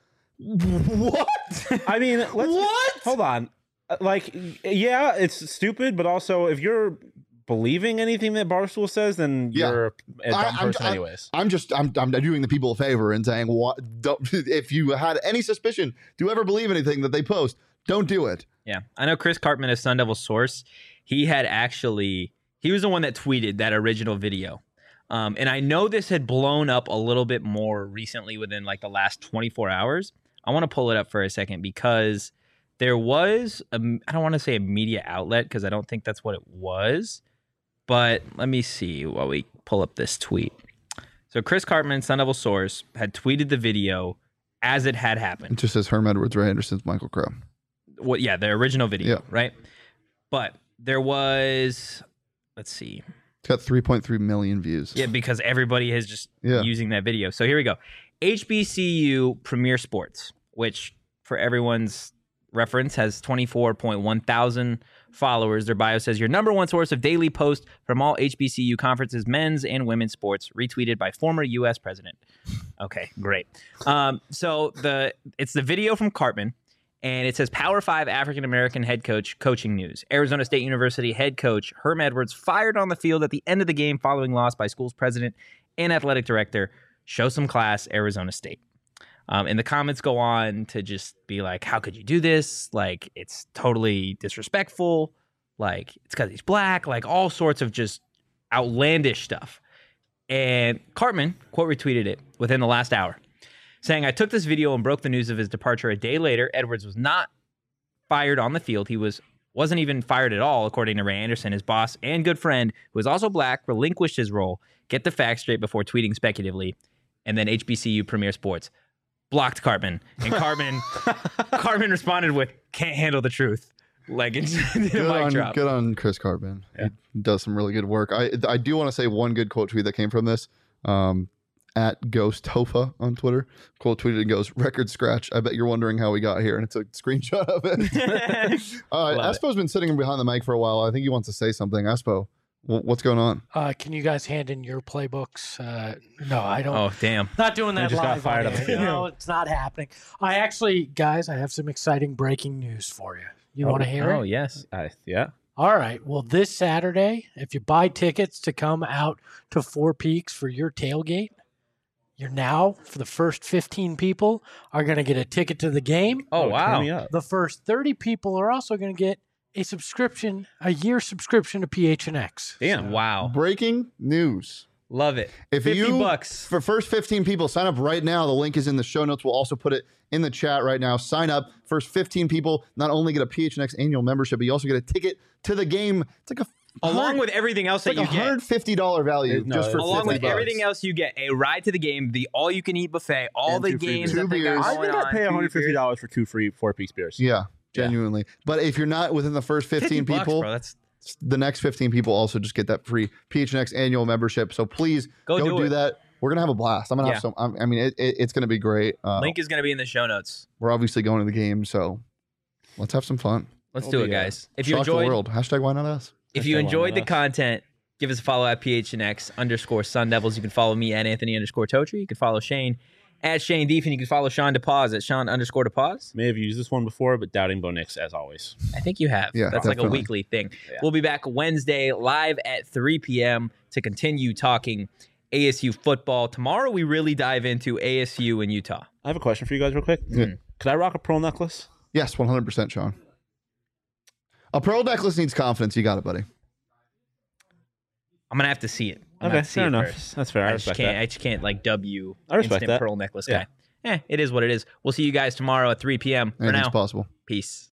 What? I mean, let's, What? Hold on. Uh, Like, yeah, it's stupid, but also if you're believing anything that Barstool says, then Yeah. you're a dumb I- I'm- person I'm- anyways. I'm just, I'm, I'm doing the people a favor and saying, what? Don't, if you had any suspicion, do you ever believe anything that they post? Don't do it. Yeah, I know Chris Cartman, a Sun Devil source, he had actually, he was the one that tweeted that original video. Um, and I know this had blown up a little bit more recently within like the last twenty-four hours. I want to pull it up for a second because there was, a, I don't want to say a media outlet because I don't think that's what it was. But let me see while we pull up this tweet. So Chris Cartman, Sun Devil source, had tweeted the video as it had happened. It just says Herm Edwards, Ray Anderson's Michael Crow. What? Yeah, the original video, Yeah. right? But there was, let's see. It's got three point three million views. Yeah, because everybody is just Yeah. using that video. So here we go. H B C U Premier Sports, which for everyone's reference has twenty-four point one thousand followers. Their bio says your number one source of daily posts from all H B C U conferences, men's and women's sports, retweeted by former U S president. Okay, great. Um, so the it's the video from Cartman. And it says Power Five African American head coach coaching news. Arizona State University head coach Herm Edwards fired on the field at the end of the game following loss by school's president and athletic director. Show some class, Arizona State. Um, and the comments go on to just be like, how could you do this? Like, it's totally disrespectful. Like, it's because he's black. Like, all sorts of just outlandish stuff. And Cartman quote retweeted it within the last hour, saying, I took this video and broke the news of his departure a day later. Edwards was not fired on the field. He was, wasn't even fired at all, according to Ray Anderson. His boss and good friend, who is also black, relinquished his role. Get the facts straight before tweeting speculatively. And then H B C U Premier Sports blocked Cartman. And Cartman, Cartman responded with, can't handle the truth. Like, it's a Good mic on, drop. good on Chris Cartman. Yeah. He does some really good work. I I do want to say one good quote tweet that came from this. Um, at Ghost Tofa on Twitter, quote tweeted and goes, record scratch. I bet you're wondering how we got here. And it's a screenshot of it. uh, Love it. Espo's been sitting behind the mic for a while. I think he wants to say something. Espo, wh- what's going on? Uh, can you guys hand in your playbooks? Uh, no, I don't. Oh, damn. Not doing that just got live. fired on on the air. field. No, it's not happening. I actually, guys, I have some exciting breaking news for you. You want to hear Oh, it? yes. I, yeah. All right. Well, this Saturday, if you buy tickets to come out to Four Peaks for your tailgate, you're now, for the first fifteen people, are going to get a ticket to the game. Oh, turn wow. me up. The first thirty people are also going to get a subscription, a year subscription to P H N X. Damn. Wow. Breaking news. Love it. If fifty you, bucks. for first fifteen people, sign up right now. The link is in the show notes. We'll also put it in the chat right now. Sign up. First fifteen people not only get a P H N X annual membership, but you also get a ticket to the game. It's like a Along with everything else it's that like a you one get. hundred fifty dollars value It- no, just for it's- Along fifty with bucks. everything else, you get a ride to the game, the all-you-can-eat buffet, all And the two free games beers. that they Two got beers. I going think I'd on, pay two one hundred fifty beers. dollars for two free Four Peaks beers. Yeah, genuinely. But if you're not within the first fifteen fifty bucks, people, bro. That's the next fifteen people also just get that free P H N X annual membership. So please Go go, do do, it. that. We're gonna have a blast. I'm gonna Yeah. have some. I'm- I mean, it, it, it's gonna be great. Uh, link is going to be in the show notes. we're obviously going to the game, so let's have some fun. Let's It'll do it, be, uh, guys. If you Shock the enjoyed, world. Hashtag why not us? if Hashtag you why enjoyed not the us. content, give us a follow at P H N X underscore Sun Devils. You can follow me at Anthony underscore Totri. You can follow Shane at Shane Deef, and you can follow Sean DePause at Sean underscore DePause. May have used this one before, but doubting Bo Nix as always. I think you have. Yeah, That's like a definitely. weekly thing. Yeah. We'll be back Wednesday live at three p.m. to continue talking A S U football. Tomorrow we really dive into A S U in Utah. I have a question for you guys real quick. Yeah. Could I rock a pearl necklace? Yes, one hundred percent, Sean. A pearl necklace needs confidence. You got it, buddy. I'm gonna have to see it. I'm gonna Okay, have to see fair it enough. first. That's fair. I, I just respect can't. that. I just can't like W I respect instant that. pearl necklace Yeah. guy. Eh, it is what it is. We'll see you guys tomorrow at three p.m. For Anything's now, possible. peace.